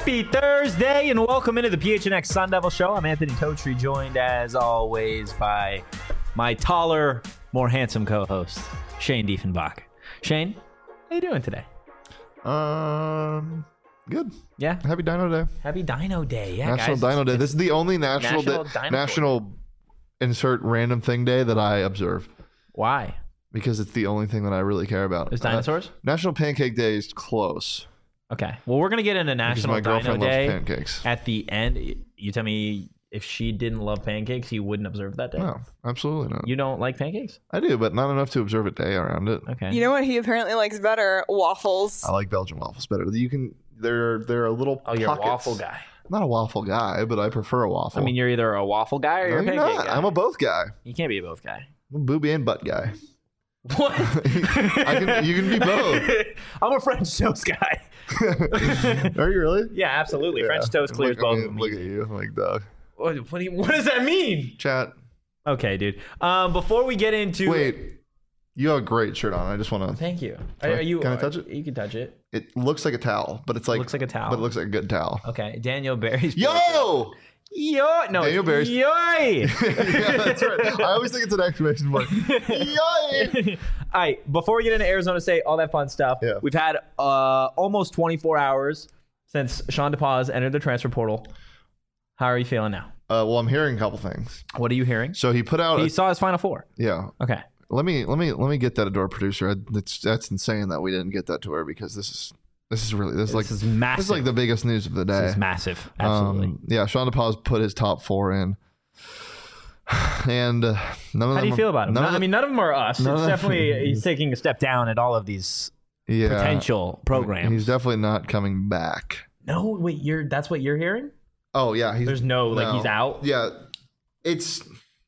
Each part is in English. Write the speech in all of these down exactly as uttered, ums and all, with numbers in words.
Happy Thursday and welcome into the P H N X Sun Devil Show. I'm Anthony Totri, joined as always by my taller, more handsome co-host, Shane Diefenbach. Shane, how you doing today? Um, good. Yeah. Happy Dino Day. Happy Dino Day. Yeah, National guys. Dino Day. This is the only national National day, Dinosaur national insert random thing day that I observe Why? because it's the only thing that I really care about. There's dinosaurs? Uh, National Pancake Day is close. Okay. Well, we're going to get into Because National my Dino girlfriend loves Day pancakes. at the end. You tell me if she didn't love pancakes, you wouldn't observe that day? No, absolutely not. You don't like pancakes? I do, but not enough to observe a day around it. Okay. You know what he apparently likes better? Waffles. I like Belgian waffles better. You can. They're they're a little. Oh, you're pockets. a waffle guy. I'm not a waffle guy, but I prefer a waffle. I mean, you're either a waffle guy or no, you're a you're pancake not. guy. I'm a both guy. You can't be a both guy. I'm a booby and butt guy. What? I can, you can be both. I'm a French toast guy. Are you really? Yeah, absolutely. Yeah. French toast clears look, both I of mean, them. Look at you, I'm like dog. What, what, do you, what does that mean? Chat. Okay, dude. Um, before we get into Wait, you have a great shirt on. I just want to. Thank you. Can I- Are you? can I touch it? You can touch it. It looks like a towel, but it's like Looks like a towel. But it looks like a good towel. Okay, Daniel Barry's. Yo! Yo! No, Daniel Barry's- Yoy! Yeah, that's right. I always think it's an exclamation point. Yay! All right, before we get into Arizona State, all that fun stuff, Yeah. we've had uh, almost twenty-four hours since Sean DePaz entered the transfer portal. How are you feeling now? Uh, well, I'm hearing a couple things. What are you hearing? So he put out. He A, saw his Final Four. yeah. Okay. Let me let me let me get that to our producer. That's that's insane that we didn't get that to her because this is this is really this is like This is massive. this is like the biggest news of the day. This is massive. Absolutely. Um, yeah, Sean DePaz put his top four in, and uh, none of them. How do you are- feel about him? none No, of I mean, none of them are us. It's none of them- definitely he's taking a step down at all of these yeah, potential programs. He's definitely not coming back. no, wait, you're that's what you're hearing? Oh yeah, he's, There's no like no. he's out. Yeah, it's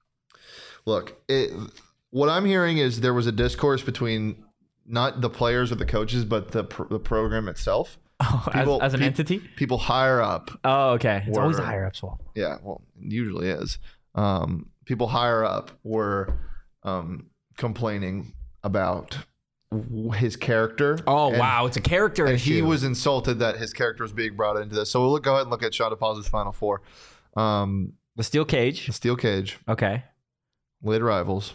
look. It, what I'm hearing is there was a discourse between not the players or the coaches, but the pr- the program itself. Oh, as- People- as, an peop- entity. People higher up. Oh, okay. It's always the were- higher ups fault. Yeah, well, it usually is. Um, people higher up were um, complaining about w- his character. Oh and- wow, it's a character And issue. he was insulted that his character was being brought into this. So we'll look, go ahead and look at Sean DePaz's Final Four. Um, the steel cage. Steel Cage, Okay. Lid Rivals,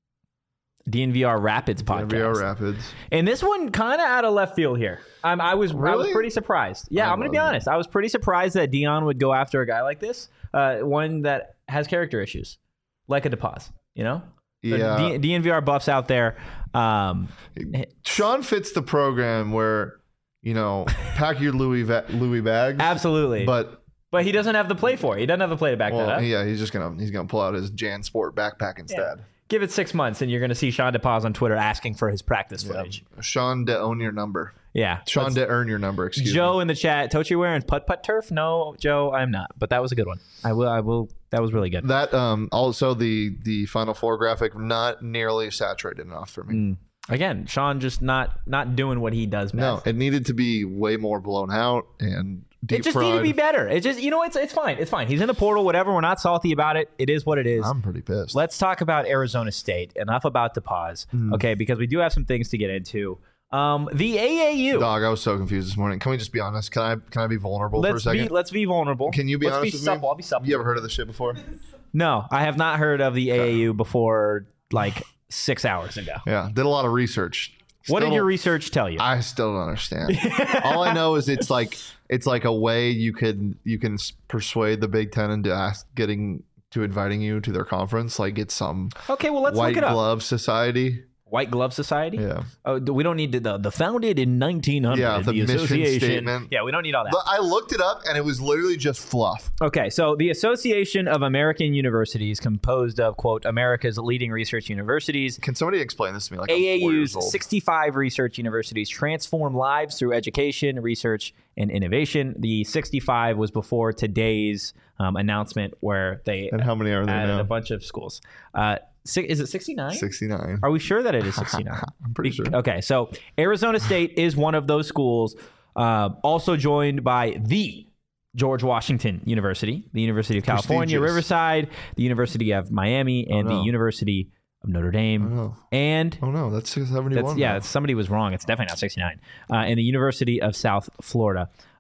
D N V R Rapids podcast. N B R Rapids. And this one kind of out of left field here. Um, I was I was Really? pretty surprised. Yeah, I I'm gonna be wasn't. honest. I was pretty surprised that Dion would go after a guy like this, uh, one that has character issues, like a DePaz. You know. So Yeah. D- DNVR buffs out there. Um, Sean fits the program where, you know, pack your Louis va- Louis bags. absolutely. But But but he doesn't have the play for it. He doesn't have the play to back that well, up. yeah, he's just gonna he's gonna pull out his Jan Sport backpack instead. Give it six months, and you're going to see Sean DePaz on Twitter asking for his practice Yeah. footage. Sean to own your number. Yeah. Sean Let's- to earn your number. Excuse Joe me. in the chat. Tochi wearing putt putt turf? No, Joe, I'm not. But that was a good one. I will. I will. That was really good. That um also the the Final Four graphic not nearly saturated enough for me. Mm. Again, Sean just not not doing what he does No, best. it needed to be way more blown out and deep It just fried. needed to be better. It just, you know, it's it's fine. It's fine. He's in the portal. Whatever. We're not salty about it. It is what it is. I'm pretty pissed. Let's talk about Arizona State. Enough about DePaz. Mm. Okay, because we do have some things to get into. Um, the A A U. Dog, I was so confused this morning. Can we just be honest? Can I can I be vulnerable Let's for a be second? let's be vulnerable. Can you be let's honest be with supple. me? I'll be supple. You ever heard of this shit before? No, I have not heard of the A A U before like six hours ago. Yeah, did a lot of research. What Still did your don't- research tell you? I still don't understand. All I know is it's like it's like a way you could you can s- persuade the Big Ten into ask, getting to inviting you to their conference. Like it's some okay, well let's white look it up. glove society. White Glove Society. Yeah, Oh, we don't need to, the the founded in nineteen hundred. Yeah, the mission association. statement. Yeah, we don't need all that. but I looked it up and it was literally just fluff. Okay, so the Association of American Universities, composed of, quote, America's leading research universities, Can somebody explain this to me? Like I'm four years A A U's old. sixty-five research universities transform lives through education, research, and innovation. The sixty-five was before today's um, announcement where they And how many are there added now? a bunch of schools. Uh, si- is it sixty-nine? sixty-nine. Are we sure that it is sixty-nine? I'm pretty sure. Okay, so Arizona State is one of those schools, uh, also joined by the George Washington University, the University of California, Prestigious. Riverside, the University of Miami, and no. the University of Notre Dame. Oh, no. And Oh no, that's seventy-one. that's, yeah, now. that's, somebody was wrong. It's definitely not sixty-nine. Uh, and the University of South Florida.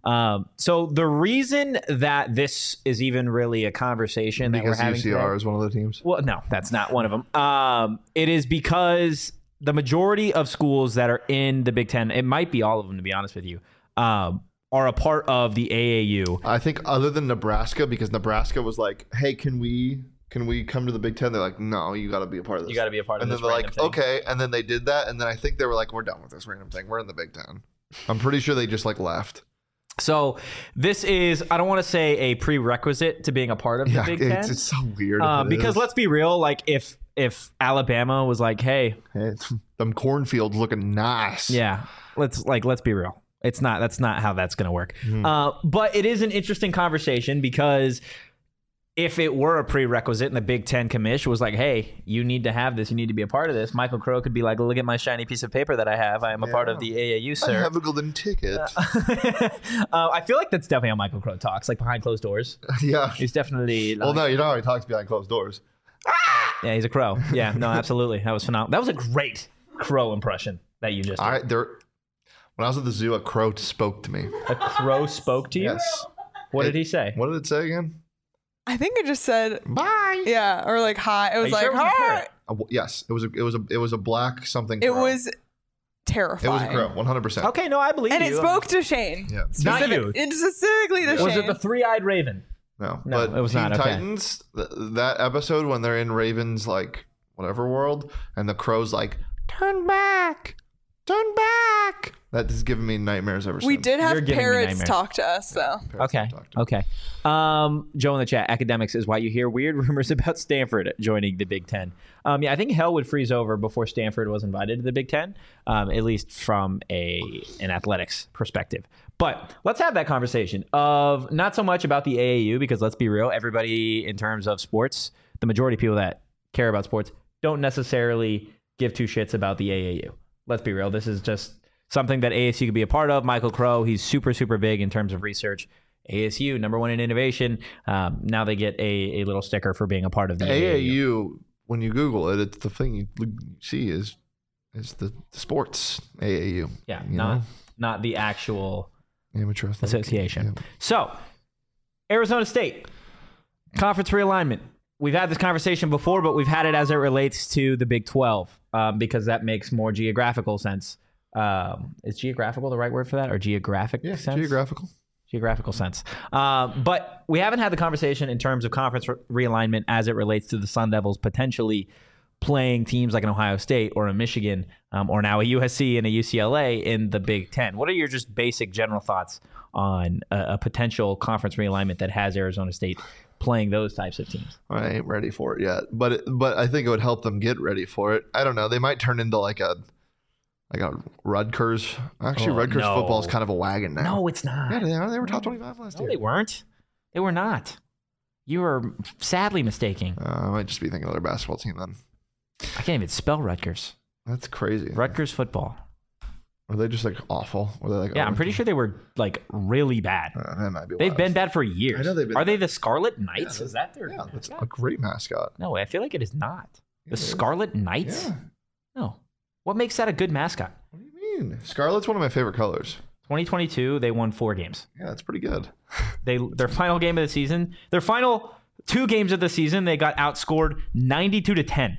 Um, so the reason that this is even really a conversation that Because we're having U C R today, is one of the teams. well, no, that's not one of them. Um, it is because the majority of schools that are in the Big Ten, it might be all of them, to be honest with you, um, are a part of the A A U. I think other than Nebraska, because Nebraska was like, hey, can we can we come to the Big Ten? They're like, no, you got to be a part of this. You got to be a part and of then this. they're random like, thing. okay. And then they did that. And then I think they were like, we're done with this random thing. We're in the Big Ten. I'm pretty sure they just like left. So this is, I don't want to say a prerequisite to being a part of the Yeah, Big Ten. it's, it's so weird. if Um, it because is. let's be real, like if if Alabama was like, hey, Hey, it's, them cornfields looking nice. yeah, let's like let's be real. It's not that's not how that's going to work. Mhm. Uh, but it is an interesting conversation because if it were a prerequisite and the Big Ten commish was like, hey, you need to have this, you need to be a part of this, Michael Crow could be like, look at my shiny piece of paper that I have. I am a part Yeah. of the A A U, I sir. have a golden ticket. uh, I feel like that's definitely how Michael Crow talks, like behind closed doors. yeah. He's definitely Well, like- no, you know how he talks behind closed doors. Yeah, he's a crow. Yeah, no, absolutely. That was phenomenal. That was a great crow impression that you just did. I there. When I was at the zoo, a crow spoke to me. A crow spoke to you? Yes. What It- did he say? What did it say again? I think it just said, Bye. yeah, or like hi. It was you like, sure it was a hi. parrot? Uh, w- yes, it was a it was a it was a black something. It crow. was It terrifying. was a crow, one hundred percent. Okay, no, I believe And you. it spoke to Shane. Yeah. Not Specific- you. It specifically to Yeah. Shane. Was it the three-eyed raven? No, No, but it was Teen not, okay. Titans. Th- that episode when they're in Raven's like whatever world, and the crow's like, "Turn back, turn back." That has given me nightmares ever we since. did You're have giving me parrots nightmares. talk to us, though. Parents Okay. talked to. Okay. Um, Joe in the chat, academics is why you hear weird rumors about Stanford joining the Big Ten. Um, yeah, I think hell would freeze over before Stanford was invited to the Big Ten, um, at least from a an athletics perspective. But let's have that conversation of not so much about the A A U, because let's be real, everybody in terms of sports, the majority of people that care about sports don't necessarily give two shits about the A A U. Let's be real. This is just something that A S U could be a part of. Michael Crow, he's super, super big in terms of research. A S U, number one in innovation. Um, now they get a, a little sticker for being a part of the A A U. When you Google it, it's the thing you look- see is is the, the sports A A U. Yeah, you not know? not the actual Amateur athletic association. Yeah. So, Arizona State, conference realignment. We've had this conversation before, but we've had it as it relates to the Big twelve um, because that makes more geographical sense. Um, is geographical the right word for that, or geographic Yeah, sense? geographical. Geographical sense. Uh, but we haven't had the conversation in terms of conference re- realignment as it relates to the Sun Devils potentially playing teams like an Ohio State or a Michigan um, or now a U S C and a U C L A in the Big Ten. What are your just basic general thoughts on a, a potential conference realignment that has Arizona State playing those types of teams? I ain't ready for it yet, but it, but I think it would help them get ready for it. I don't know. They might turn into like a like a Rutgers. Actually, Oh, Rutgers no. football is kind of a wagon now. No, it's not. Yeah, they are. They were top twenty-five last No, year. they weren't. They were not. You were sadly mistaken. Uh, I might just be thinking of their basketball team then. I can't even spell Rutgers. That's crazy. Rutgers football. Were they just like awful? Were they like? Yeah, I'm oh, pretty sure they were like really bad. Uh, that might be. They've wild. been bad for years. I know they've been Are they bad. the Scarlet Knights? Yeah, is that their Yeah, that's mascot? a great mascot. No, I feel like it is not. Yeah, The it is. Scarlet Knights? Yeah. No. What makes that a good mascot? What do you mean? Scarlet's one of my favorite colors. twenty twenty-two, they won four games. Yeah, that's pretty good. They their final game of the season, their final two games of the season, they got outscored ninety-two to ten.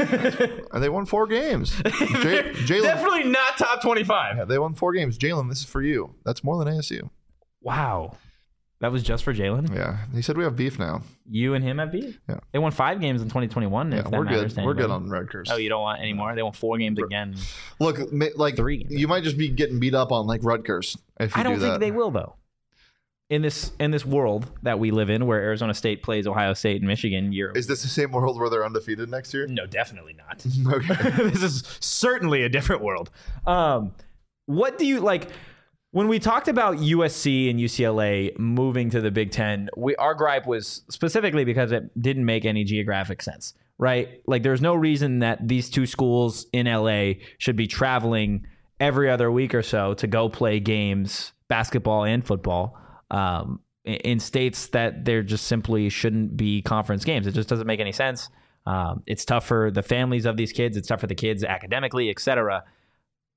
And they won four games. J- Jalen. Definitely not top twenty-five. Yeah, they won four games. Jalen, this is for you. That's more than A S U. Wow. That was just for Jalen? Yeah, he said we have beef now. You and him have beat? Yeah. They won five games in twenty twenty-one. Yeah, if that we're matters good. to We're good anybody. on Rutgers. Oh, you don't want any more? They won four games again. Look, ma- like Three games. you might just be getting beat up on like Rutgers if you I don't do think that. they will, though. In this in this world that we live in, where Arizona State plays Ohio State and Michigan, you're Is this the same world where they're undefeated next year? no, definitely not. Okay. This is certainly a different world. Um, what do you like? When we talked about U S C and U C L A moving to the Big Ten, we our gripe was specifically because it didn't make any geographic sense, right? Like, there's no reason that these two schools in L A should be traveling every other week or so to go play games, basketball and football, um, in- in states that there just simply shouldn't be conference games. It just doesn't make any sense. Um, it's tough for the families of these kids. It's tough for the kids academically, et cetera.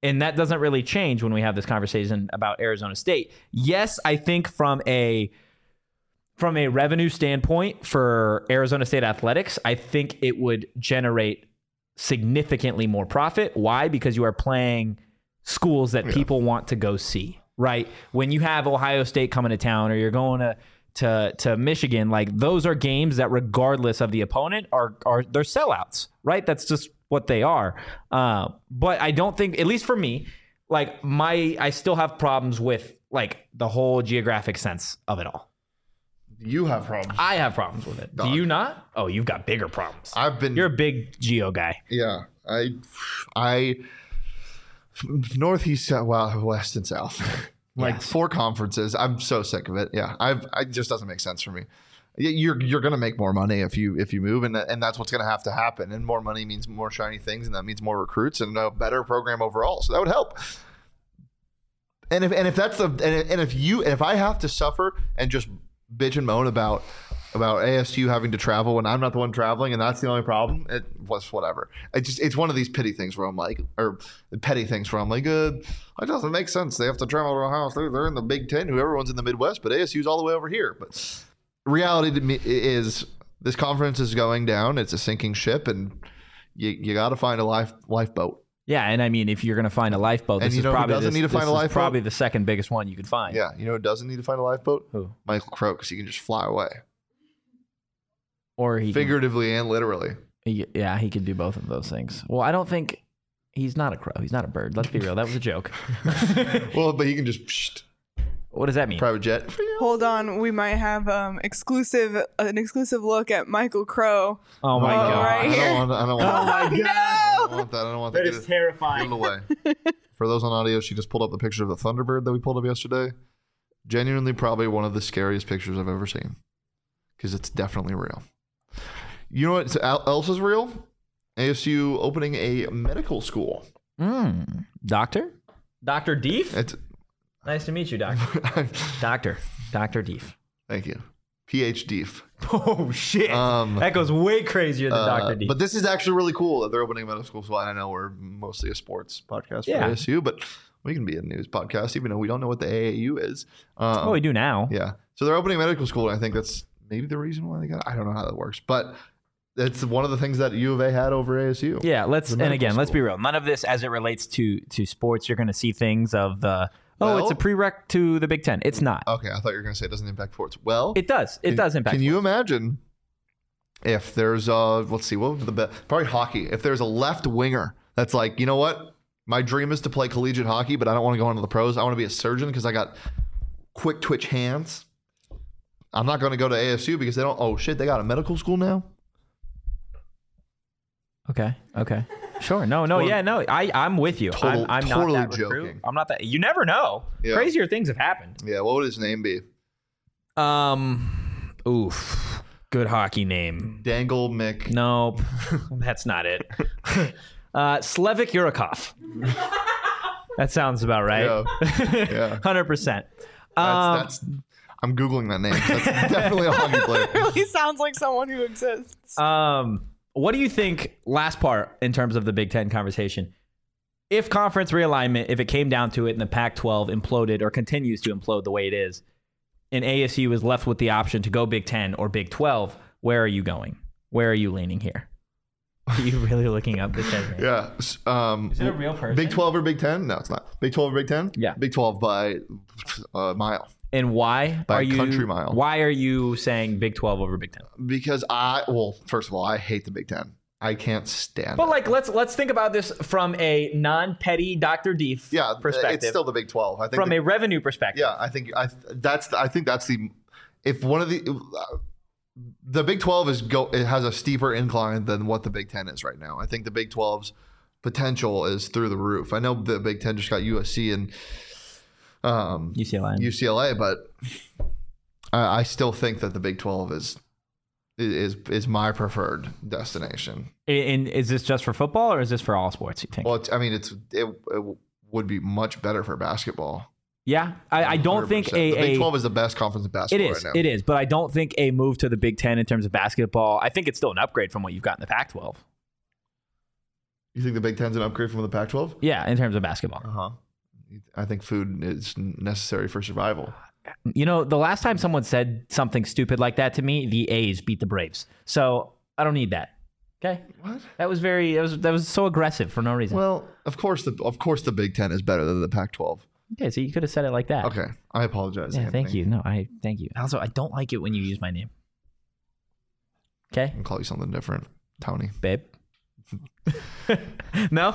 And that doesn't really change when we have this conversation about Arizona State. Yes, I think from a from a revenue standpoint for Arizona State athletics, I think it would generate significantly more profit. Why? Because you are playing schools that yeah. people want to go see, right? When you have Ohio State coming to town or you're going to to to Michigan, like those are games that regardless of the opponent are are they're sellouts, right? That's just what they are. Uh, but I don't think, at least for me, like my, I still have problems with like the whole geographic sense of it all. You have problems. I have problems with it. Dog. Do you not? Oh, you've got bigger problems. I've been. You're a big geo guy. Yeah, I, I, northeast, well, west and south, like yes. four conferences. I'm so sick of it. Yeah, I've. It just doesn't make sense for me. You're you're gonna make more money if you if you move, and and that's what's gonna have to happen. And more money means more shiny things, and that means more recruits and a better program overall. So that would help. And if and if that's the and, and if you and if I have to suffer and just bitch and moan about about A S U having to travel when I'm not the one traveling, and that's the only problem, it was whatever. It just it's one of these pity things where I'm like, or petty things where I'm like, uh, it doesn't make sense. They have to travel to Ohio State. They're in the Big Ten. Who everyone's in the Midwest, but A S U's all the way over here. But reality to me is this conference is going down. It's a sinking ship, and you you got to find a life lifeboat. Yeah, and I mean, if you're going to find a lifeboat, this and you is know probably who doesn't this, need to find this a lifeboat? Is probably the second biggest one you could find. Yeah, you know who doesn't need to find a lifeboat? Who? Michael Crow, because he can just fly away, or he figuratively can, and literally. He, yeah, he could do both of those things. Well, I don't think he's not a crow. He's not a bird. Let's be real. That was a joke. Well, but he can just. Psh, What does that mean? Private jet. Hold on, we might have um exclusive an exclusive look at Michael Crow. Oh my uh, god! Right I don't want. I don't want. Oh my god! No! I don't want that. I don't want that. That is terrifying. Give it away. For those on audio, she just pulled up the picture of the Thunderbird that we pulled up yesterday. Genuinely, probably one of the scariest pictures I've ever seen, because it's definitely real. You know what else is real? A S U opening a medical school. Mm. Doctor? Doctor Deef? It's. Nice to meet you, Doctor. Doctor. Doctor Deef. Thank you. P H D. Oh, shit. Um, that goes way crazier than uh, Doctor Deef. But this is actually really cool that they're opening a medical school. So I know we're mostly a sports podcast for yeah. A S U, but we can be a news podcast, even though we don't know what the A A U is. Um, oh, we do now. Yeah. So they're opening a medical school, and I think that's maybe the reason why they got it. I don't know how that works. But it's one of the things that U of A had over A S U. Yeah, let's and again, school. let's be real. None of this as it relates to to sports. You're going to see things of the Oh, well, it's a prereq to the Big Ten. It's not. Okay, I thought you were going to say it doesn't impact sports. Well, it does. It can, does impact. Can sports. you imagine if there's uh let's see, what would the best? Probably hockey. If there's a left winger that's like, you know what, my dream is to play collegiate hockey, but I don't want to go into the pros. I want to be a surgeon because I got quick twitch hands. I'm not going to go to A S U because they don't. Oh shit, they got a medical school now. Okay. Okay. Sure. No, no, yeah, no. I, I'm with you. Total, I'm, I'm totally not that joking. recruit. I'm not that. You never know. Yeah. Crazier things have happened. Yeah. What would his name be? Um. Oof. Good hockey name. Dangle Mick. Nope. That's not it. uh, Slevik Yurikov. That sounds about right. Yeah. Yeah. Hundred percent. That's. that's I'm googling that name. That's definitely a hockey player. It really sounds like someone who exists. Um. What do you think, last part, in terms of the Big Ten conversation, if conference realignment, if it came down to it and the Pac twelve imploded or continues to implode the way it is, and A S U is left with the option to go Big Ten or Big twelve, where are you going? Where are you leaning here? Are you really looking up this? Yeah. Um, is it a real person? Big twelve or Big Ten? No, it's not. Big twelve or Big Ten? Yeah. Big twelve by a mile. And why by are a you country mile? Why are you saying Big twelve over Big Ten? Because I, well, first of all, I hate the Big Ten. I can't stand but it. like, let's let's think about this from a non-petty Doctor Deef yeah, perspective. It's still the Big twelve. I think from the, a revenue perspective. Yeah, I think I that's the, I think that's the if one of the uh, the Big twelve is go it has a steeper incline than what the Big Ten is right now. I think the Big twelve's potential is through the roof. I know the Big Ten just got U S C and um, U C L A, U C L A, but I, I still think that the Big twelve is. Is is my preferred destination. And is this just for football or is this for all sports, you think? Well, it's, I mean, it's it, it would be much better for basketball. Yeah, I, I don't think a, the Big a twelve is the best conference in basketball. It is, right now. it is, but I don't think a move to the Big Ten in terms of basketball. I think it's still an upgrade from what you've got in the Pac twelve. You think the Big Ten's an upgrade from the Pac twelve? Yeah, in terms of basketball. Uh-huh. I think food is necessary for survival. You know, the last time someone said something stupid like that to me, the A's beat the Braves. So I don't need that. Okay. What? That was very. That was that was so aggressive for no reason. Well, of course the of course the Big Ten is better than the Pac twelve. Okay, so you could have said it like that. Okay, I apologize. Yeah, Anthony. thank you. No, I thank you. Also, I don't like it when you use my name. Okay. I'll call you something different, Tony. Babe. No.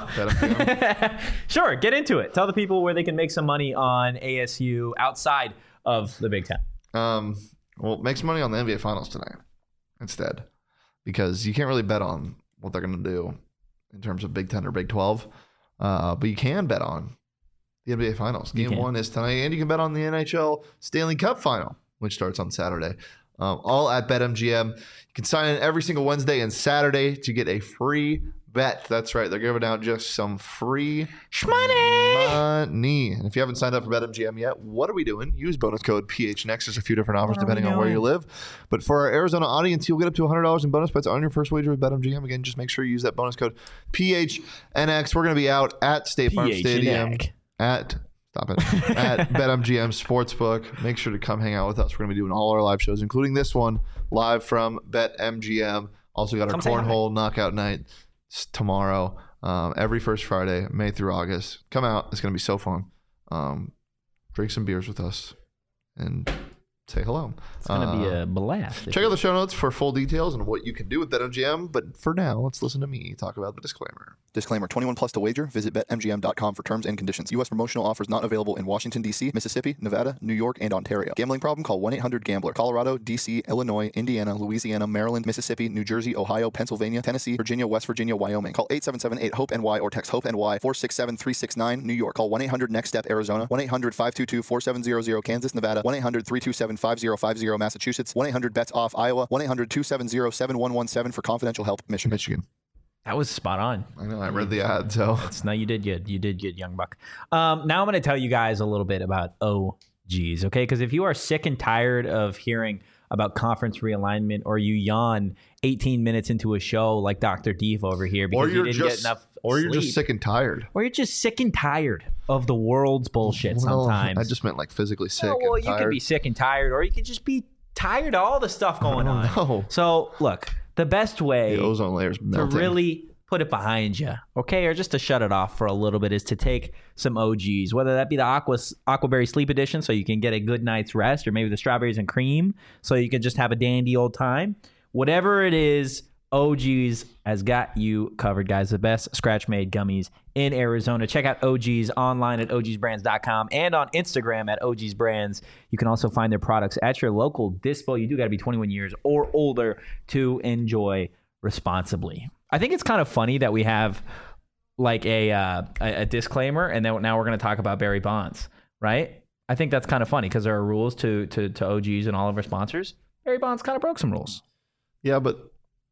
Sure. Get into it. Tell the people where they can make some money on A S U outside of the Big Ten. Um. Well, make some money on the N B A Finals tonight instead, because you can't really bet on what they're going to do in terms of Big Ten or Big twelve. Uh, but you can bet on the N B A Finals. Game one is tonight, and you can bet on the N H L Stanley Cup Final, which starts on Saturday. Um, all at BetMGM. You can sign in every single Wednesday and Saturday to get a free bet. That's right. They're giving out just some free Shmoney! money. And if you haven't signed up for BetMGM yet, what are we doing? Use bonus code P H N X. There's a few different offers What are depending we on where doing? you live. But for our Arizona audience, you'll get up to one hundred dollars in bonus bets on your first wager with BetMGM. Again, just make sure you use that bonus code P H N X. We're going to be out at State Farm P H N X. Stadium at Stop it. At BetMGM Sportsbook. Make sure to come hang out with us. We're going to be doing all our live shows, including this one, live from BetMGM. Also got our Come say hi. Cornhole Knockout Night s- tomorrow. Um, every first Friday, May through August. Come out. It's going to be so fun. Um, drink some beers with us and say hello. It's going to Uh, be a blast. Check out the show notes for full details on what you can do with BetMGM. But for now, let's listen to me talk about the disclaimer. Disclaimer, twenty-one plus to wager. Visit Bet M G M dot com for terms and conditions. U S promotional offers not available in Washington, D C, Mississippi, Nevada, New York, and Ontario. Gambling problem? Call one eight hundred gambler. Colorado, D C, Illinois, Indiana, Louisiana, Maryland, Mississippi, New Jersey, Ohio, Pennsylvania, Tennessee, Virginia, West Virginia, Wyoming. Call eight seven seven eight hope N Y or text HOPE-N Y four six seven three six nine. New York. Call one eight hundred next step Arizona. one eight hundred five two two four seven zero zero. Kansas, Nevada. one eight hundred three two seven five zero five zero. Massachusetts. one eight hundred bets off Iowa. one eight hundred two seven zero seven one one seven for confidential help. Michigan. Michigan. That was spot on. I know. I read the ad, so. It's, no, you did good. You did good, young buck. Um, now I'm going to tell you guys a little bit about O Gs, okay? Because if you are sick and tired of hearing about conference realignment, or you yawn eighteen minutes into a show like Doctor Deef over here because Or you you're didn't just, get enough or you're sleep, just sick and tired. or you're just sick and tired of the world's bullshit Well, sometimes. I just meant like physically sick. Oh, well, and you tired. could be sick and tired, or you could just be tired of all the stuff going on. know. So, look, the best way The ozone layer's to melting. really put it behind you, okay, or just to shut it off for a little bit, is to take some O Gs, whether that be the Aqua Aquaberry Sleep Edition, so you can get a good night's rest, or maybe the strawberries and cream, so you can just have a dandy old time. Whatever it is, O Gs has got you covered, guys. The best scratch-made gummies in Arizona. Check out O Gs online at O Gs brands dot com and on Instagram at O Gs brands. You can also find their products at your local dispo. You do got to be twenty-one years or older to enjoy responsibly. I think it's kind of funny that we have like a uh, a, a disclaimer, and then now we're going to talk about Barry Bonds, right? I think that's kind of funny because there are rules to, to to O Gs and all of our sponsors. Barry Bonds kind of broke some rules. Yeah, but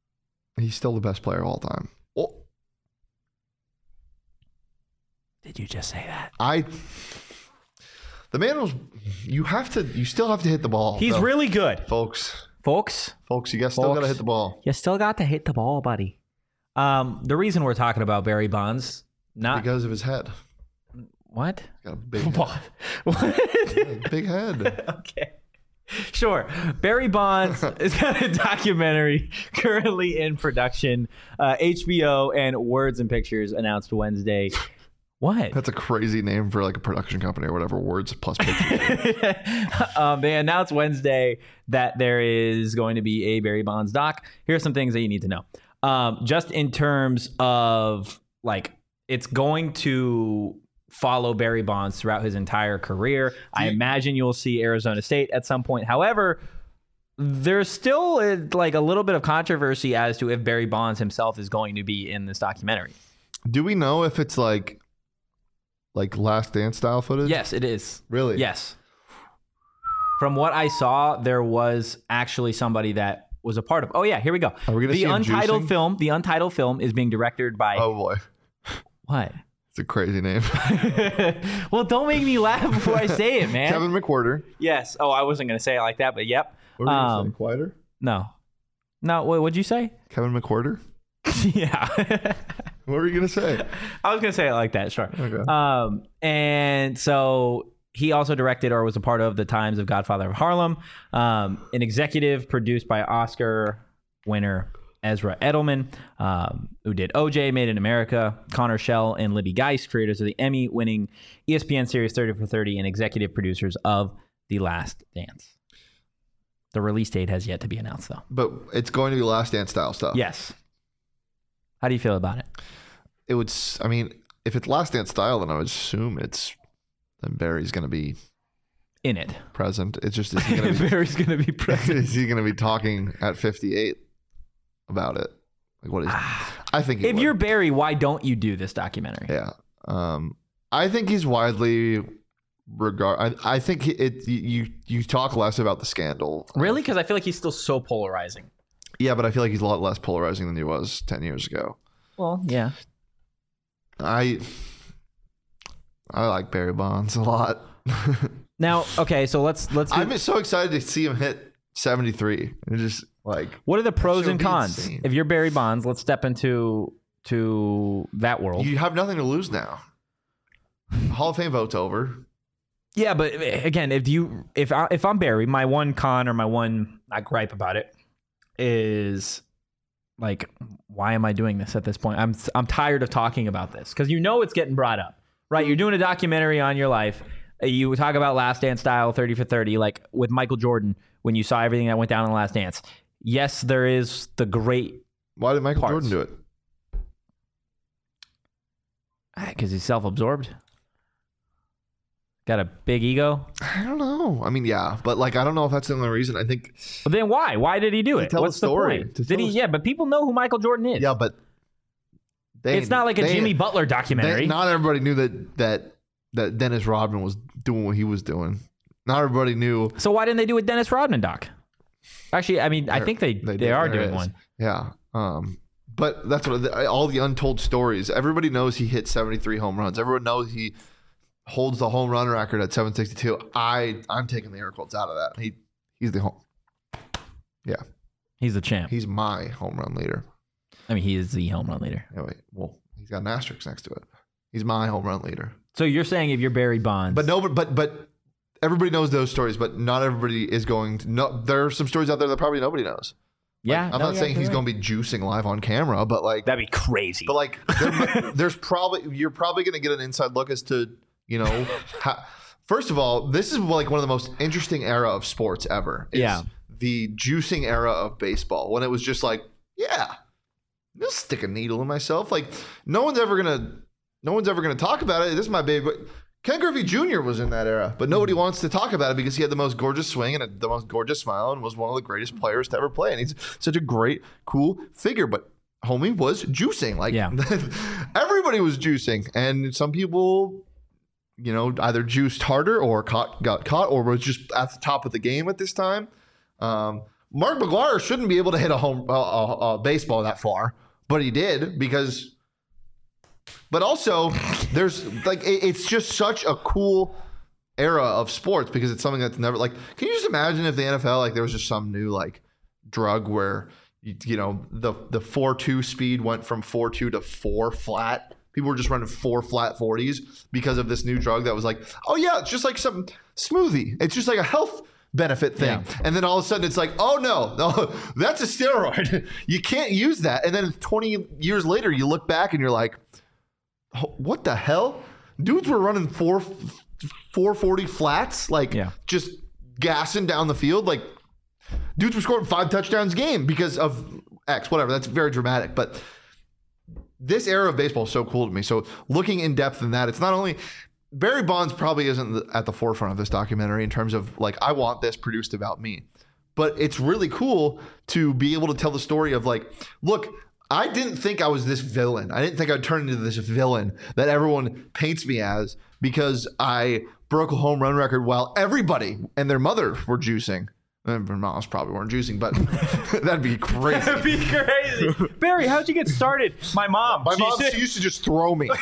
he's still the best player of all time. Oh, Did you just say that? I. The man was. You have to. You still have to hit the ball. He's though. really good, folks. folks. Folks, you guys still Folks. got to hit the ball You still got to hit the ball, buddy. Um, the reason we're talking about Barry Bonds, not because of his head. what? Got a big head. What? What? Yeah, big head. Okay. Sure. Barry Bonds has got a documentary currently in production. Uh, H B O and Words and Pictures announced Wednesday. What? That's a crazy name for like a production company or whatever. Words plus pictures. um, they announced Wednesday that there is going to be a Barry Bonds doc. Here are some things that you need to know. Um, just in terms of like, it's going to follow Barry Bonds throughout his entire career. I imagine you'll see Arizona State at some point. However, there's still uh, like a little bit of controversy as to if Barry Bonds himself is going to be in this documentary. Do we know if it's like, like Last Dance style footage? Yes, it is. Really? Yes. From what I saw, there was actually somebody that was a part of. Oh yeah, here we go. Are we gonna the see him untitled juicing? film. The untitled film is being directed by Oh boy, what? it's a crazy name. Well, don't make me laugh before I say it, man. Kevin McWhorter. Yes. Oh, I wasn't gonna say it like that, but yep. What were you Um, gonna say? Quieter? No. No. What would you say? Kevin McWhorter. Yeah. What were you gonna say? I was gonna say it like that. Sure. Okay. Um, and so he also directed or was a part of The Times of Godfather of Harlem, um, an executive produced by Oscar winner Ezra Edelman, um, who did O J, Made in America, Connor Shell, and Libby Geist, creators of the Emmy-winning E S P N series thirty for thirty, and executive producers of The Last Dance. The release date has yet to be announced, though. But it's going to be Last Dance style stuff. Yes. How do you feel about it? It would. s- I mean, if it's Last Dance style, then I would assume it's then Barry's going to be In it. present. It's just is he going to be Barry's going to be present. is he going to be talking at fifty-eight about it? Like what is? I think he If would. you're Barry, why don't you do this documentary? Yeah. Um, I think he's widely regard. I, I think he- it. You you talk less about the scandal. Really? Because I feel like he's still so polarizing. Yeah, but I feel like he's a lot less polarizing than he was ten years ago. Well, yeah. I I like Barry Bonds a lot. Now, okay, so let's let's. Do, I'm so excited to see him hit seventy-three. It's just like what are the pros That and would be cons? insane. If you're Barry Bonds, let's step into to that world. you have nothing to lose now. Hall of Fame vote's over. Yeah, but again, if you if I, if I'm Barry, my one con or my one not gripe about it is like, why am I doing this at this point? I'm I'm tired of talking about this because you know it's getting brought up, right? You're doing a documentary on your life. You talk about Last Dance style, thirty for thirty, like with Michael Jordan when you saw everything that went down in the Last Dance. Yes, there is the great Why did Michael Parts. Jordan do it? because he's self-absorbed. Got a big ego. I don't know. I mean, yeah, but like I don't know if that's the only reason. I think But then why? Why did he do To it? tell What's the story. the point? To Did he? tell- Yeah, but people know who Michael Jordan is. yeah, but they It's not like a they- Jimmy Butler documentary. they- not everybody knew that that that Dennis Rodman was doing what he was doing. Not everybody knew. So why didn't they do a Dennis Rodman doc? Actually, I mean, I There- think they they, did. are There doing is. one. Yeah. Um, but that's what all the untold stories. Everybody knows he hit seventy-three home runs. Everyone knows he holds the home run record at seven sixty-two. I I'm taking the air quotes out of that. He he's the home. Yeah, He's the champ. he's my home run leader. I mean, he is the home run leader. Anyway, well, he's got an asterisk next to it. He's my home run leader. So you're saying if you're Barry Bonds, But no, but but but everybody knows those stories. But not everybody is going to. No, there are some stories out there that probably nobody knows. yeah, I'm no, not yeah, saying he's you're going to be juicing live on camera, but like That'd be crazy. But like, there, there's probably you're probably going to get an inside look as to you know. How, first of all, this is like one of the most interesting era of sports ever. is Yeah. the juicing era of baseball when it was just like, yeah, I'll stick a needle in myself. Like no one's ever gonna, no one's ever gonna talk about it. This is my baby. But Ken Griffey Junior was in that era, but nobody wants to talk about it because he had the most gorgeous swing and a, the most gorgeous smile and was one of the greatest players to ever play. And he's such a great, cool figure. But homie was juicing. Like Yeah. everybody was juicing. And some people, you know, either juiced harder or caught, got caught or was just at the top of the game at this time. Um, Mark McGwire shouldn't be able to hit a home uh, uh, uh, baseball that far, but he did because but also there's like it, it's just such a cool era of sports because it's something that's never like can you just imagine if the N F L like there was just some new like drug where you, you know the the four two speed went from four two to four flat. People were just running four flat forties because of this new drug that was like, oh yeah, it's just like some smoothie. It's just like a health benefit thing. Yeah. And then all of a sudden it's like, oh no, no, that's a steroid. You can't use that. And then twenty years later, you look back and you're like, what the hell? Dudes were running four, four forty flats, like Yeah. just gassing down the field. Like dudes were scoring five touchdowns a game because of X, whatever. That's very dramatic. But this era of baseball is so cool to me. So looking in depth in that, it's not only Barry Bonds probably isn't at the forefront of this documentary in terms of like, I want this produced about me, but it's really cool to be able to tell the story of like, look, I didn't think I was this villain. I didn't think I'd turn into this villain that everyone paints me as because I broke a home run record while everybody and their mother were juicing. And their moms probably weren't juicing, but that'd be crazy. That'd be crazy. Barry, how'd you get started? My mom. My She mom said- she used to just throw me.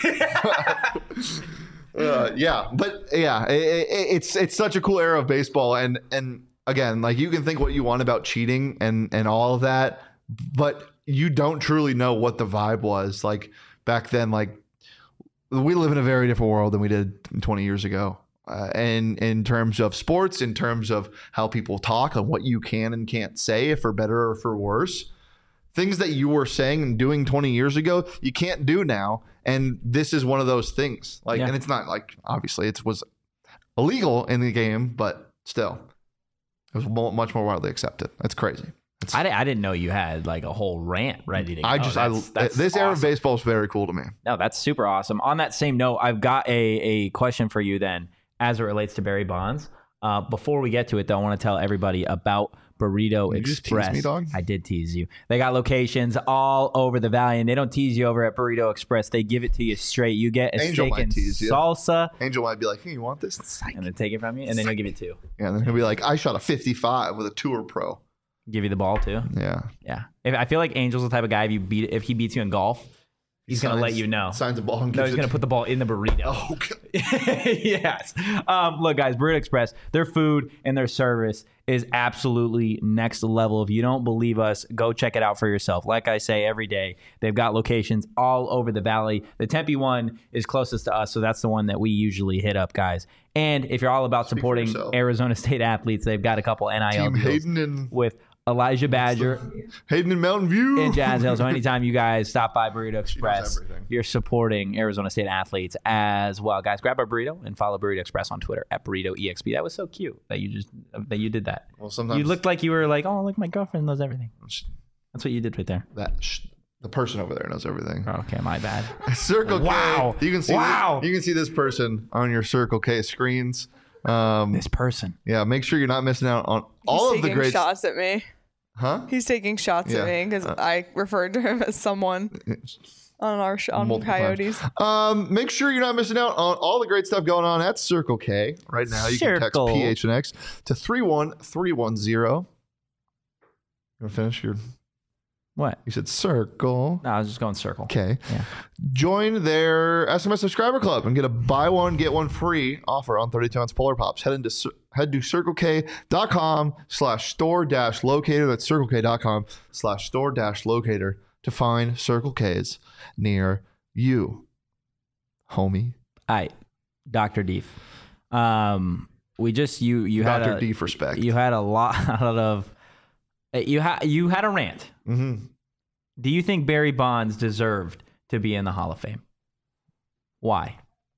uh, yeah, but yeah, it, it, it's it's such a cool era of baseball, and and again, like you can think what you want about cheating and and all of that, but you don't truly know what the vibe was. Like back then, like we live in a very different world than we did twenty years ago. Uh, and in terms of sports, in terms of how people talk and what you can and can't say, for better or for worse, things that you were saying and doing twenty years ago, you can't do now. And this is one of those things. Like, yeah. And it's not like, obviously it was illegal in the game, but still it was mo- much more widely accepted. That's crazy. It's, I, I didn't know you had like a whole rant ready to go. I just, that's, I, that's this awesome. Era of baseball is very cool to me. No, that's super awesome. On that same note, I've got a, a question for you then as it relates to Barry Bonds. Uh, before we get to it, though, I want to tell everybody about Burrito Did Express. You just tease me, dog? I did tease you. They got locations all over the valley, and they don't tease you over at Burrito Express. They give it to you straight. You get a Angel steak might and tease you. salsa. Angel might be like, hey, you want this? Psych. And then take it from you, and then he'll give it to you. Yeah, and then he'll be like, I shot a fifty-five with a Tour Pro. Give you the ball, too. Yeah. Yeah. If, I feel like Angel's the type of guy, if you beat if he beats you in golf, he's going to let you know. Signs a ball and No, he's going to put the ball in the burrito. Oh, okay. Yes. Um, look, guys, Burrito Express, their food and their service is absolutely next level. If you don't believe us, go check it out for yourself. Like I say every day, they've got locations all over the valley. The Tempe one is closest to us, so that's the one that we usually hit up, guys. And if you're all about Speak supporting Arizona State athletes, they've got a couple N I L Team deals Hayden and with Elijah Badger Hayden in Mountain View in Jazz Hill. So anytime you guys stop by Burrito Express, everything. you're supporting Arizona State athletes as well. Guys, grab a burrito and follow Burrito Express on Twitter at Burrito E X P. That was so cute that you just that you did that. Well, sometimes You looked like you were like, oh, look, my girlfriend knows everything. That's what you did right there. that sh- the person over there knows everything. Oh, okay, my bad. Circle K. Wow. You can see Wow. This, you can see this person on your Circle K screens. Um, This person. yeah, make sure you're not missing out on He's all of the taking great shots at me. Huh? He's taking shots Yeah. at me because Uh, I referred to him as someone on our sh- on Multiple Coyotes. times. Um, make sure you're not missing out on all the great stuff going on at Circle K right now. You can text Circle. P H N X to three one three one zero. You want to finish your? What? You said Circle. No, I was just going circle. Okay. Yeah. Join their S M S subscriber club and get a buy one get one free offer on thirty-two ounce Polar Pops. Head into Cir- head to circlek.com slash store dash locator. That's circlek.com slash store dash locator to find Circle K's near you, homie. All right, Doctor Deef. Um, we just you you had Doctor a, Deef respect. you had a lot of you had you had a rant. Mm-hmm. Do you think Barry Bonds deserved to be in the Hall of Fame? Why?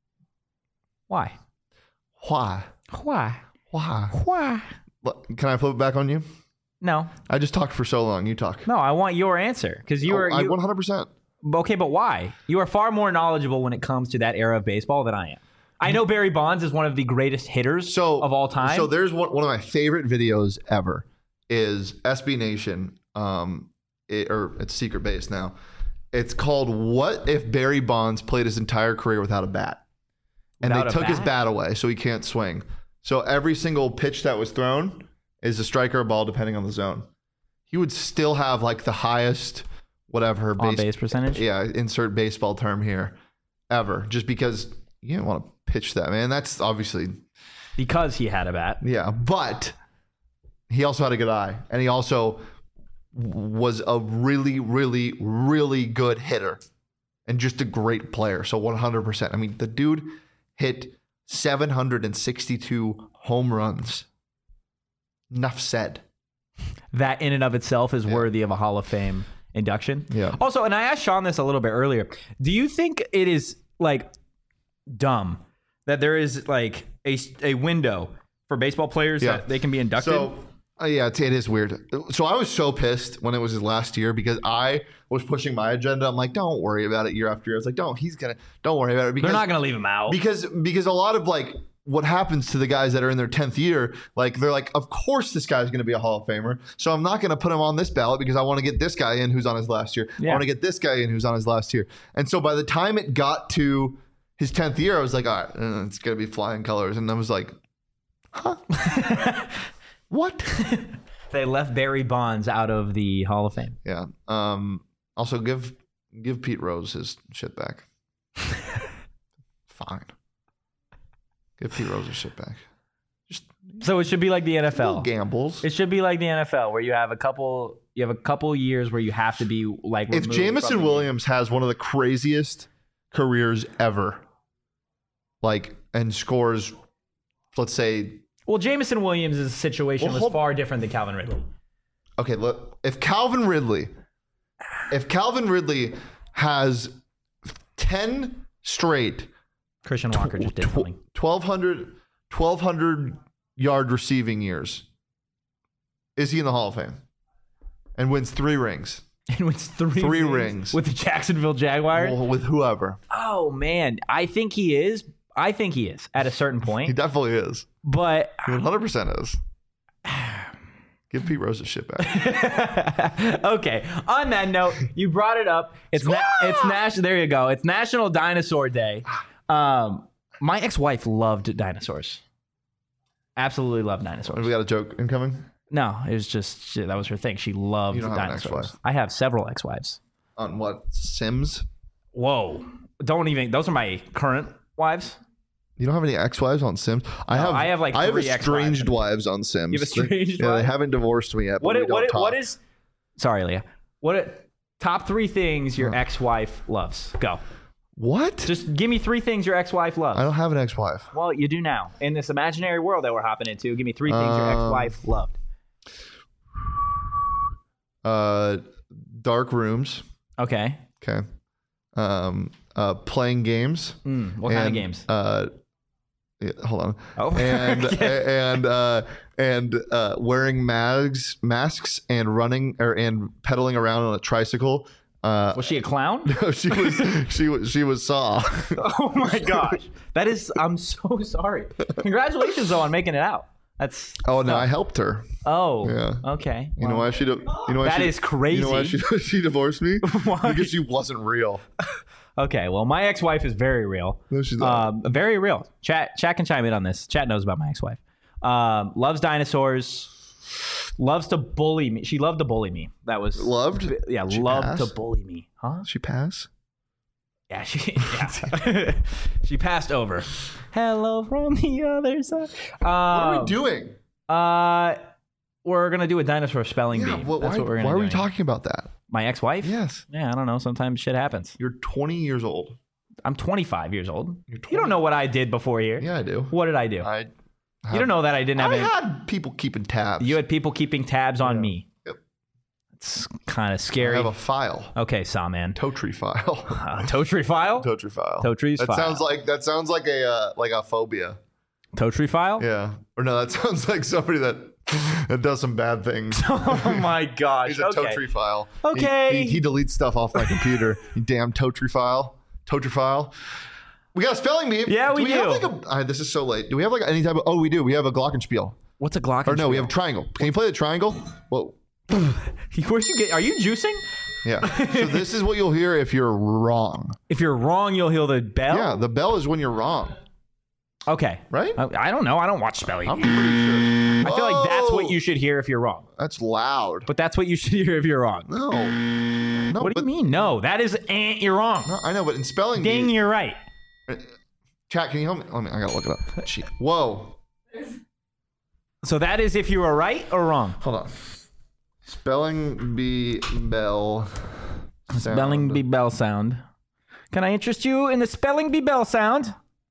Why? Why? Why? Why? Why? Look, can I flip it back on you? No, I just talked for so long. You talk. no. I want your answer because you Oh, were I you, one hundred percent. okay, but why? You are far more knowledgeable when it comes to that era of baseball than I am. I know Barry Bonds is one of the greatest hitters So of all time. So there's one, one of my favorite videos ever is S B Nation, um, it, or it's Secret Base now. It's called "What If Barry Bonds Played His Entire Career Without a Bat?" And Without they a took his bat? bat away, so he can't swing. So every single pitch that was thrown is a strike or a ball, depending on the zone. He would still have like the highest, whatever on base percentage. Yeah, insert baseball term here, ever. Just because you didn't want to pitch that, man. That's obviously Because he had a bat. yeah, but he also had a good eye, and he also was a really, really, really good hitter, and just a great player. So one hundred percent. I mean, the dude hit seven hundred sixty-two home runs. Enough said. That in and of itself is Yeah. worthy of a Hall of Fame induction. Yeah. Also, and I asked Sean this a little bit earlier. Do you think it is like dumb that there is like a, a window for baseball players Yeah. that they can be inducted? So, uh, yeah, it's, it is weird. So I was so pissed when it was his last year because I was pushing my agenda. I'm like, don't worry about it year after year. I was like, don't, he's going to, don't worry about it. Because, They're not going to leave him out. Because, because a lot of like what happens to the guys that are in their tenth year, like they're like, of course this guy's going to be a Hall of Famer. So I'm not going to put him on this ballot because I want to get this guy in who's on his last year. Yeah. I want to get this guy in who's on his last year. And so by the time it got to his tenth year, I was like, all right, uh, it's going to be flying colors. And I was like, huh? What? They left Barry Bonds out of the Hall of Fame. Yeah. Um, also, give give Pete Rose his shit back. Fine. Give Pete Rose his shit back. Just So it should be like the N F L. gambles. It should be like the N F L where you have a couple You have a couple years where you have to be like. If Jameson Williams has one of the craziest careers ever, like, and scores, let's say. Well, Jameson Williams' situation Well, was hold- far different than Calvin Ridley. Okay, look, if Calvin Ridley, if Calvin Ridley has ten straight Christian Walker just did something. twelve hundred, twelve hundred yard receiving years, is he in the Hall of Fame? And wins three rings. And wins three, Three rings. with the Jacksonville Jaguars. Well, with whoever. Oh man, I think he is. I think he is at a certain He point. definitely is. But He one hundred percent is. Give Pete Rose his shit back. okay. On that note, you brought it up. It's na- it's national. There you go. It's National Dinosaur Day. Um, my ex-wife loved dinosaurs. Absolutely loved dinosaurs. We got a joke incoming No, it was just she, that was her thing. She loved You don't have an dinosaurs. ex-wife. I have several ex-wives. on what? Sims? Whoa! Don't even. Those are my current wives. You don't have any ex-wives on Sims? I No, have. I have, like, I have three estranged ex-wives. wives on Sims. You have estranged They, yeah, they wives? haven't divorced me yet. But What? we It, don't what? It, talk. what is? Sorry, Leah. What? It, top three things your Huh. ex-wife loves. Go. What? Just give me three things your ex-wife loves. I don't have an ex-wife. Well, you do now. In this imaginary world that we're hopping into, give me three things your Um, ex-wife loved. Uh, dark rooms. Okay. Okay. Um, uh, playing games. Mm, what kind of and, games? Uh, yeah, hold on. Oh. And Okay. and uh, and uh, wearing masks, masks, and running or and pedaling around on a tricycle. Uh, Was she a clown? no, she was she was she was Saw. Oh my gosh. That is, I'm so sorry. Congratulations though on making it out. That's Oh no, I helped her. Oh. Yeah. Okay. You know why she? di- You know why That she, is crazy. You know why she she divorced me? Why? Because she wasn't real. Okay. Well, my ex-wife is very real. No, she's not. Um, very real. Chat, chat can chime in on this. Chat knows about my ex-wife. Um, loves dinosaurs. Loves to bully me. She loved to bully me. That was Loved? Yeah, She loved passed? to bully me. Huh? She pass? Yeah, she yeah. She passed over. Hello from the other side. Um, What are we doing? Uh, we're gonna do a dinosaur spelling Yeah. bee. Well, That's why what we're gonna why are we do. talking about that? My ex-wife? Yes. Yeah, I don't know. Sometimes shit happens. You're twenty years old. I'm twenty-five years old. You're You don't know what I did before here. Yeah, I do. What did I do? I. you don't know that I didn't have I any. had people keeping tabs. You had people keeping tabs on Yeah. me. Yep. It's kind of I scary. have a file. Okay, Sawman. Totri file. Uh, Totri file? Totri file. Totri's that file. sounds like that sounds like a uh, like a phobia. Totri file? Yeah. Or no, that sounds like somebody that that does some bad things. Oh my gosh. He's a okay. Totri file. Okay. He, he, he deletes stuff off my computer. You damn Totri file. Totri file. We got a spelling bee. Yeah, we do. We have do. like a, uh, this is so late. Do we have like any type of? Oh, we do. We have a glockenspiel. What's a Glock? Or no, we have a triangle. Can you play the triangle? Whoa. Where'd you get? Are you juicing? Yeah. So this is what you'll hear if you're wrong. If you're wrong, you'll hear the bell. Yeah, the bell is when you're wrong, Okay. right? I, I don't know. I don't watch spelling. I'm Bee. pretty sure. I feel like that's what Oh, you should hear if you're wrong. That's loud. But that's what you should hear if you're wrong. No. No. What do but, you mean? No, that is eh, you're wrong. No, I know, but in spelling Ding, bee, you're right. chat, can you help me? Let me. I gotta look it up. Gee. Whoa. So that is if you are right or wrong. Hold on. Spelling bee bell. Spelling sound. bee bell sound. Can I interest you in the spelling bee bell sound?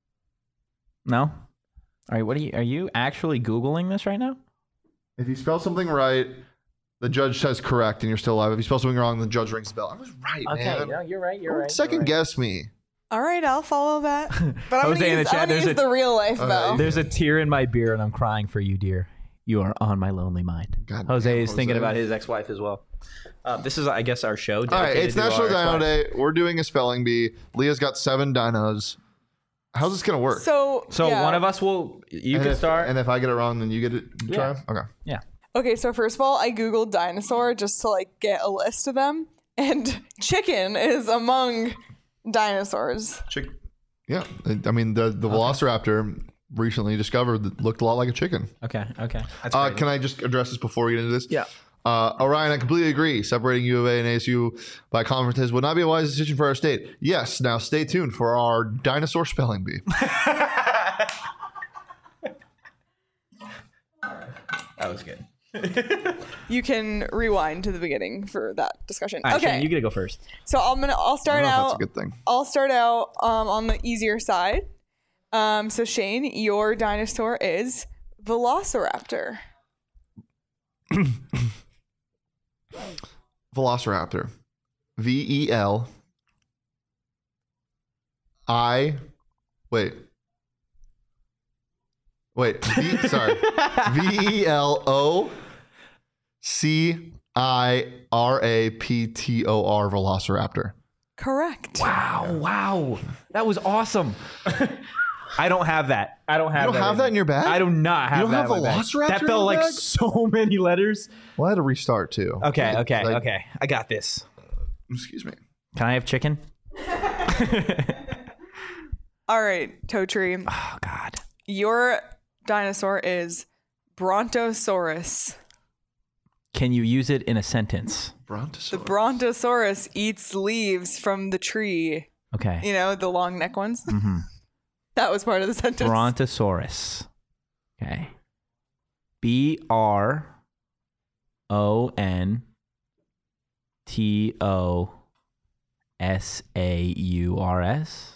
No. All right. What are you? Are you actually googling this right now? If you spell something right, the judge says correct, and you're still alive. If you spell something wrong, the judge rings the bell. I was right, Okay. man. No, you're right. You're Don't right. second you're right. guess me. All right, I'll follow that. But I'm Jose gonna in the use, chat, I'm gonna there's use a- the real life Okay. bell. There's a tear in my beer, and I'm crying for you, dear. You are on my lonely mind. God Jose damn, is thinking Jose. about his ex-wife as well. Uh, this is, I guess, our show. All right, dedicated it's to National our Dino ex-wives. Day. We're doing a spelling bee. Leah's got seven dinos. How's this gonna work? So, So yeah. one of us will. You and can if, start. And if I get it wrong, then you get it. Try. Yeah. Okay. yeah. Okay, so first of all, I googled dinosaur just to like get a list of them, and chicken is among dinosaurs. Chick. Yeah. I mean, the the Velociraptor recently discovered that looked a lot like a chicken. Okay. Okay. That's Uh, great. can I just address this before we get into this? Yeah. Uh, Orion, I completely agree. Separating U of A and A S U by conferences would not be a wise decision for our state. Yes. Now stay tuned for our dinosaur spelling bee. That was good. You can rewind to the beginning for that discussion. All right, okay, Shane, you get to go first. so I'm gonna. I'll I start don't know if out. that's a good thing. I'll start out um, on the easier side. Um, so Shane, your dinosaur is Velociraptor. Velociraptor. V E L I wait. Wait. V, sorry. V E L O C I R A P T O R Velociraptor. Correct. Wow, wow. That was awesome. I don't have that. I don't have You don't that. have that in your bag? I do not have You don't that have in my bag. Velociraptor That in felt your like bag? so many letters. Well, I had to restart too. Okay, okay, Like- okay. I got this. Excuse me. Can I have chicken? All right, Toe Tree. Oh, God. Your dinosaur is Brontosaurus. Can you use it in a sentence? Brontosaurus. The Brontosaurus eats leaves from the tree. Okay. You know, the long neck ones. Mm-hmm. That was part of the sentence. Brontosaurus. Okay. B R O N T O S A U R S.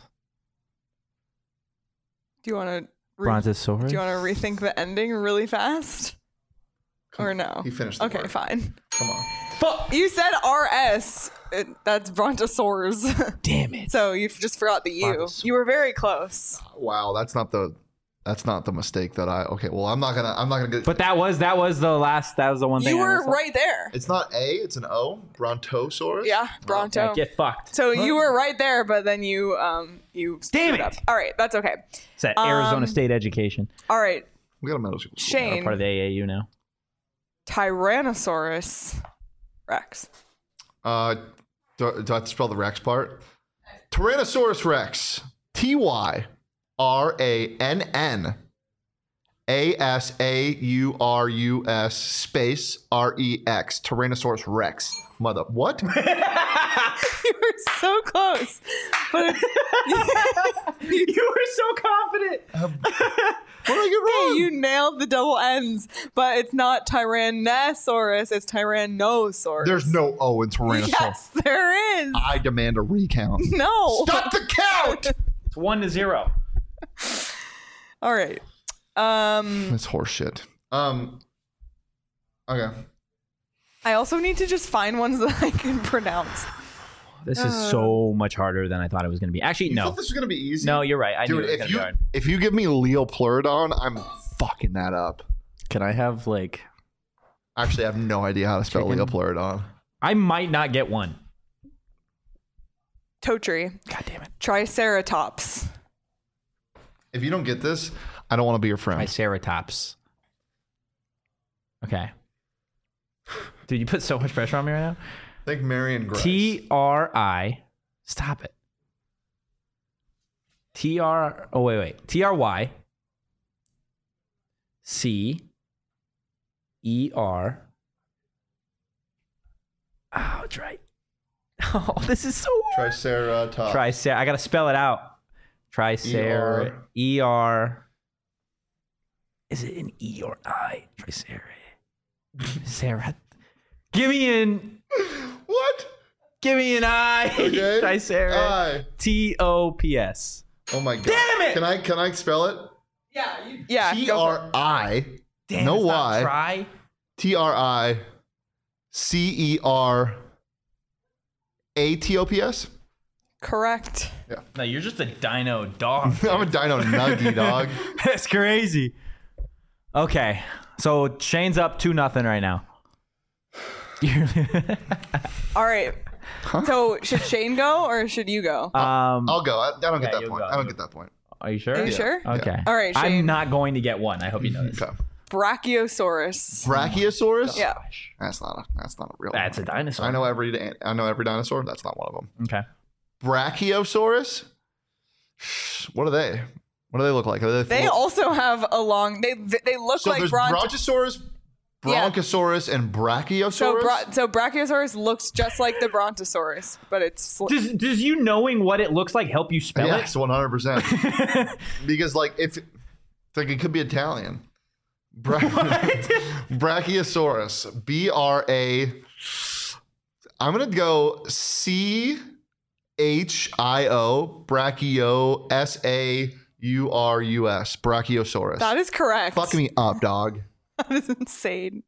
Do you want to? Brontosaurus. Do you want to rethink the ending really fast? Or no? He finished the Okay, word. fine. Come on. Fuck. You said R S. It, that's Brontosaurs. Damn it. So you just forgot the U. Brontosaurus. You were very close. Wow, that's not the that's not the mistake that I okay, well I'm not gonna I'm not gonna get But that was that was the last. That was the one thing. You I were missed. right there. it's not A, it's an O. Brontosaurus? Yeah, Bronto. Yeah, get fucked. So you were right there, but then you um you Damn screwed it. up. All right, that's okay. It's that Arizona Um, State education. All right, We got a middle school. I'm Shane, part of the A A U now. Tyrannosaurus Rex. Uh do, do I have to spell the Rex part? Tyrannosaurus Rex. T Y R A N N A S A U R U S space R E X. Tyrannosaurus Rex. Mother what? You were so close, but it's, You were so confident. What did I get wrong? you nailed the double N's, but it's not Tyrannosaurus, it's Tyrannosaurus. There's no O in Tyrannosaurus. Yes, there is. I demand a recount. No. Stop the count! It's one to zero. All right. Um, That's horseshit. Um. Okay. I also need to just find ones that I can pronounce. This is so much harder than I thought it was going to be. Actually, You no. thought this was gonna be easy? No, you're right. I knew Dude, it was if going to you be hard. if you give me Leopleurodon, I'm fucking that up. Can I have like? Actually, I have no idea how to spell Chicken? Leopleurodon. I might not get one. Totri. God damn it. Triceratops. If you don't get this, I don't want to be your friend. Triceratops. Okay. Dude, you put so much pressure on me right now. Think Marion Grice. T R I. Stop it. T R. Oh, wait, wait. T R Y. C. E R. Oh, it's right. Oh, this is so hard. Triceratops. Tricer. I got to spell it out. Tricer. E R. Is it an E or I? Tricer. Sarah. Give me an. What? Give me an I. Okay. Tricer. I. T O P S. Oh my god. Damn it! Can I can I spell it? Yeah. You, yeah. T go for it. R I. Damn, No it's not Y. Try. T R I. C E R. A T O P S. Correct. No, you're just a dino dog. I'm a dino nuggy dog. That's crazy. Okay, so Shane's up two nothing right now. All right. So should Shane go or should you go? um, I'll go. I, I don't get Yeah, that you'll point. go. I don't get that point. are you sure? Are you sure? Okay. All right, Shane. I'm not going to get one. I hope you know this. Okay. Brachiosaurus. Brachiosaurus. Yeah. That's not a. That's not a real. That's a one. dinosaur. I know every. dan- I know every dinosaur. That's not one of them. Okay. Brachiosaurus. What are they? What do they look like? Are they, They full- also have a long. They they look so like there's bronto. Brontosaurus, Yeah. Bronchosaurus, and Brachiosaurus. So, bra- so Brachiosaurus looks just like the Brontosaurus, but it's sl- Does Does you knowing what it looks like help you spell yes, one hundred percent. it? Because like if it's like it could be Italian. Bra- Brachiosaurus. B R A. I'm gonna go C H I O. Brachio. S A U R U S. Brachiosaurus. That is correct. Fuck me up, dog. That is insane.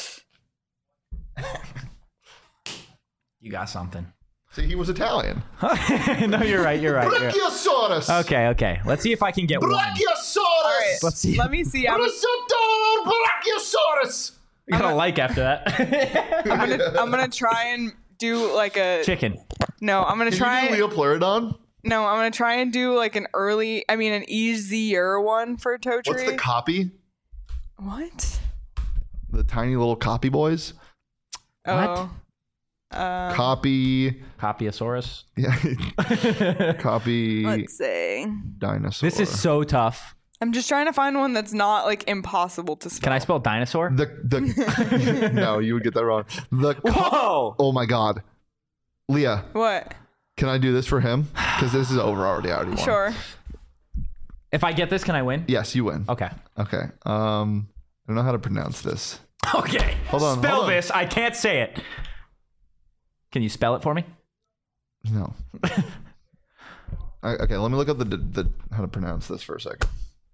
You got something. See, he was Italian. No, you're right. You're right. You're right. Brachiosaurus. Okay, okay. Let's see if I can get one. Brachiosaurus. All right. Let's see. Let me see. I'm, Brachiosaurus. You got a like after that. I'm gonna I'm gonna try and do like a Chicken. no. I'm gonna Can try. you do Leopleurodon? No, I'm gonna try and do like an early. I mean, an easier one for Totri. What's the copy? What? The tiny little copy boys. Oh. Uh, Copy. Copiosaurus. Yeah. Copy. let's see. Dinosaur. This is so tough. I'm just trying to find one that's not like impossible to spell. Can I spell dinosaur? the the. No, you would get that wrong. The. Co- Whoa! oh my God, Leah, What? can I do this for him? Because this is over already. I already won. Sure. If I get this, can I win? Yes, you win. Okay. Okay. Um, I don't know how to pronounce this. Okay. Hold on, Spell hold on. this. I can't say it. Can you spell it for me? No. I, okay, let me look up the, the the how to pronounce this for a second.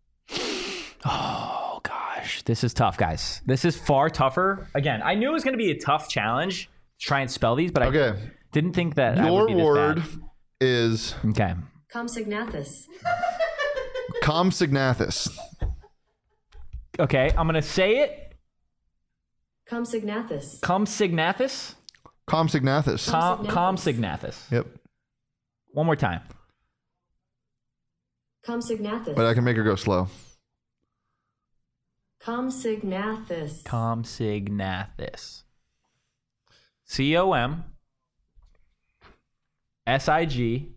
Oh gosh, this is tough, guys. This is far tougher. Again, I knew it was going to be a tough challenge to try and spell these, but I Okay. didn't think that I Your would be this word bad. is Okay. Compsognathus. Compsognathus. Okay, I'm gonna say it. Compsognathus. Compsognathus. Compsognathus. Com- Compsognathus. Compsognathus. Yep. One more time. Compsognathus. But I can make her go slow. Compsognathus. Compsognathus. C O M S I G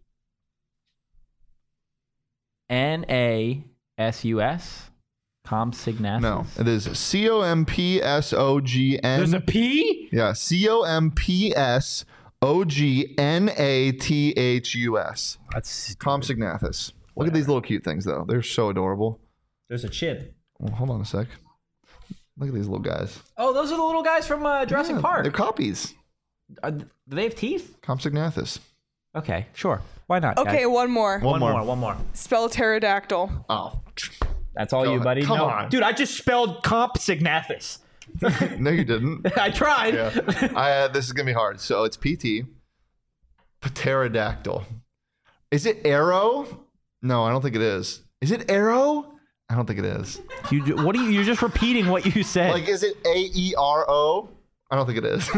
N A S U S. Compsognathus. No, it is C O M P S O G There's a N. P? Yeah, C O M P S O G N A T H U S. That's Compsognathus. Look at these little cute things, though. They're so adorable. There's a chin. Well, hold on a sec. Look at these little guys. Oh, those are the little guys from uh, Jurassic Yeah, Park. They're copies. Are, do they have teeth? Compsognathus. Okay, sure. Why not? Okay, guys? one more. One One more. more. One more. Spell pterodactyl. Oh. That's all Go you, ahead. buddy. Come no, on. dude, I just spelled Compsognathus. No, you didn't. I tried. Yeah. I, uh, this is going to be hard. So it's P T. Pterodactyl. Is it arrow? No, I don't think it is. Is it arrow? I don't think it is. You, ju- what are you? You're just repeating what you said. Like, is it A E R O? I don't think it is.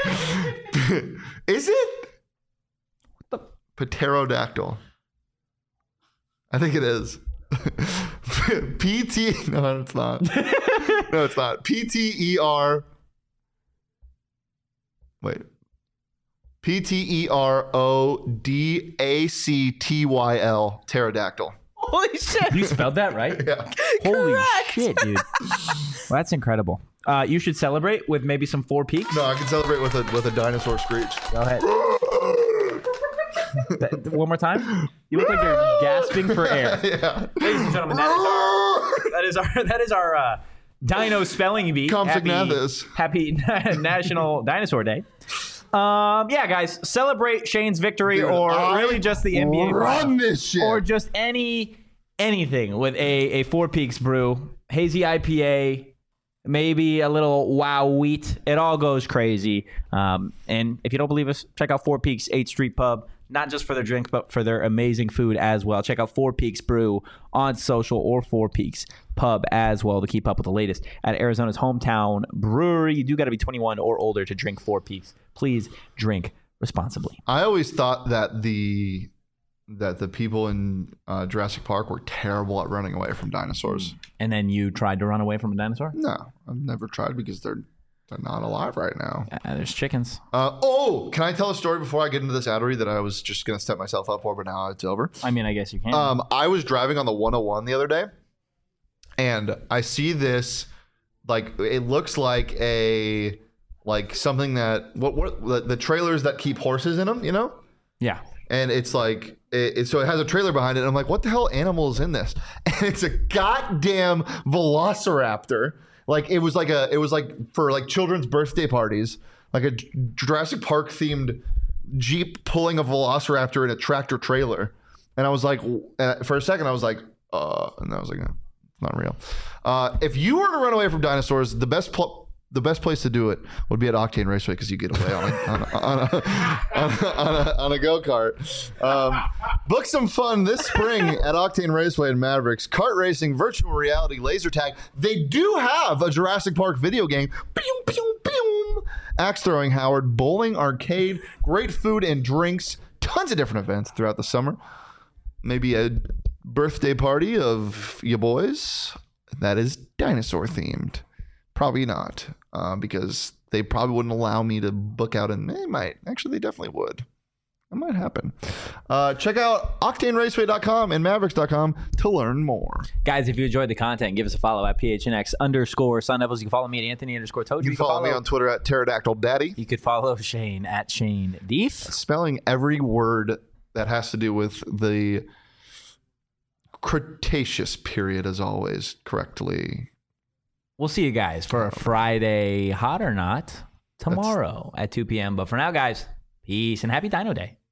Is it? What the? Pterodactyl. I think it is. P T. No, it's not. No, it's not. P T E R. Wait. P T E R O D A C T Y L. Pterodactyl. Holy shit. You spelled that right? Yeah. Holy Correct. shit, dude. Well, that's incredible. Uh, you should celebrate with maybe some Four Peaks. No, I can celebrate with a with a dinosaur screech. Go ahead. That- one more time. You look like you're gasping for air. Yeah. Ladies and gentlemen, that is our that is our that is our uh, Dino spelling bee. Compsognathus. Happy, happy National Dinosaur Day. Um, yeah, guys, celebrate Shane's victory, Dude, or I really just the N B A, Run this shit. or just any anything with a a Four Peaks brew, hazy I P A, maybe a little wow wheat. It all goes crazy. Um, and if you don't believe us, check out Four Peaks eighth Street Pub. Not just for their drink, but for their amazing food as well. Check out Four Peaks Brew on social, or Four Peaks Pub as well, to keep up with the latest at Arizona's hometown brewery. You do got to be twenty-one or older to drink Four Peaks. Please drink responsibly. I always thought that the that the people in uh, Jurassic Park were terrible at running away from dinosaurs. And then you tried to run away from a dinosaur? No, I've never tried because they're they're not alive right now. Uh, there's chickens. Uh, oh, can I tell a story before I get into this ad read that I was just gonna step myself up for, but now it's over. I mean, I guess you can. Um, I was driving on the one oh one the other day, and I see this, like, it looks like a, like something that, what, what, the, the trailers that keep horses in them, you know? yeah. and it's like it, it, so it has a trailer behind it. And I'm like, what the hell animal is in this? And it's a goddamn velociraptor. Like it was like a it was like for like children's birthday parties, like a Jurassic Park themed Jeep pulling a velociraptor in a tractor trailer. And I was like, and for a second I was like, uh, and I was like, no, it's not real. Uh, if you were to run away from dinosaurs, the best pl- the best place to do it would be at Octane Raceway because you get away on a, on a, on a, on a, on a, on a go-kart. Um, book some fun this spring at Octane Raceway in Mavericks. Kart racing, virtual reality, laser tag. They do have a Jurassic Park video game. Pew, pew, pew. Axe throwing, Howard, bowling, arcade, great food and drinks, tons of different events throughout the summer. Maybe a birthday party of your boys that is dinosaur themed. Probably not, uh, because they probably wouldn't allow me to book out, and they might. Actually, they definitely would. That might happen. Uh, check out octane raceway dot com and mavericks dot com to learn more. Guys, if you enjoyed the content, give us a follow at P H N X underscore Sun Devils. You can follow me at Anthony underscore Toad. You, you can follow, follow me on Twitter at Pterodactyl Daddy. You could follow Shane at Shane Deef. Spelling every word that has to do with the Cretaceous period, as always, correctly. We'll see you guys for a Friday Hot or Not tomorrow That's... at two p.m. But for now, guys, peace and happy Dino Day.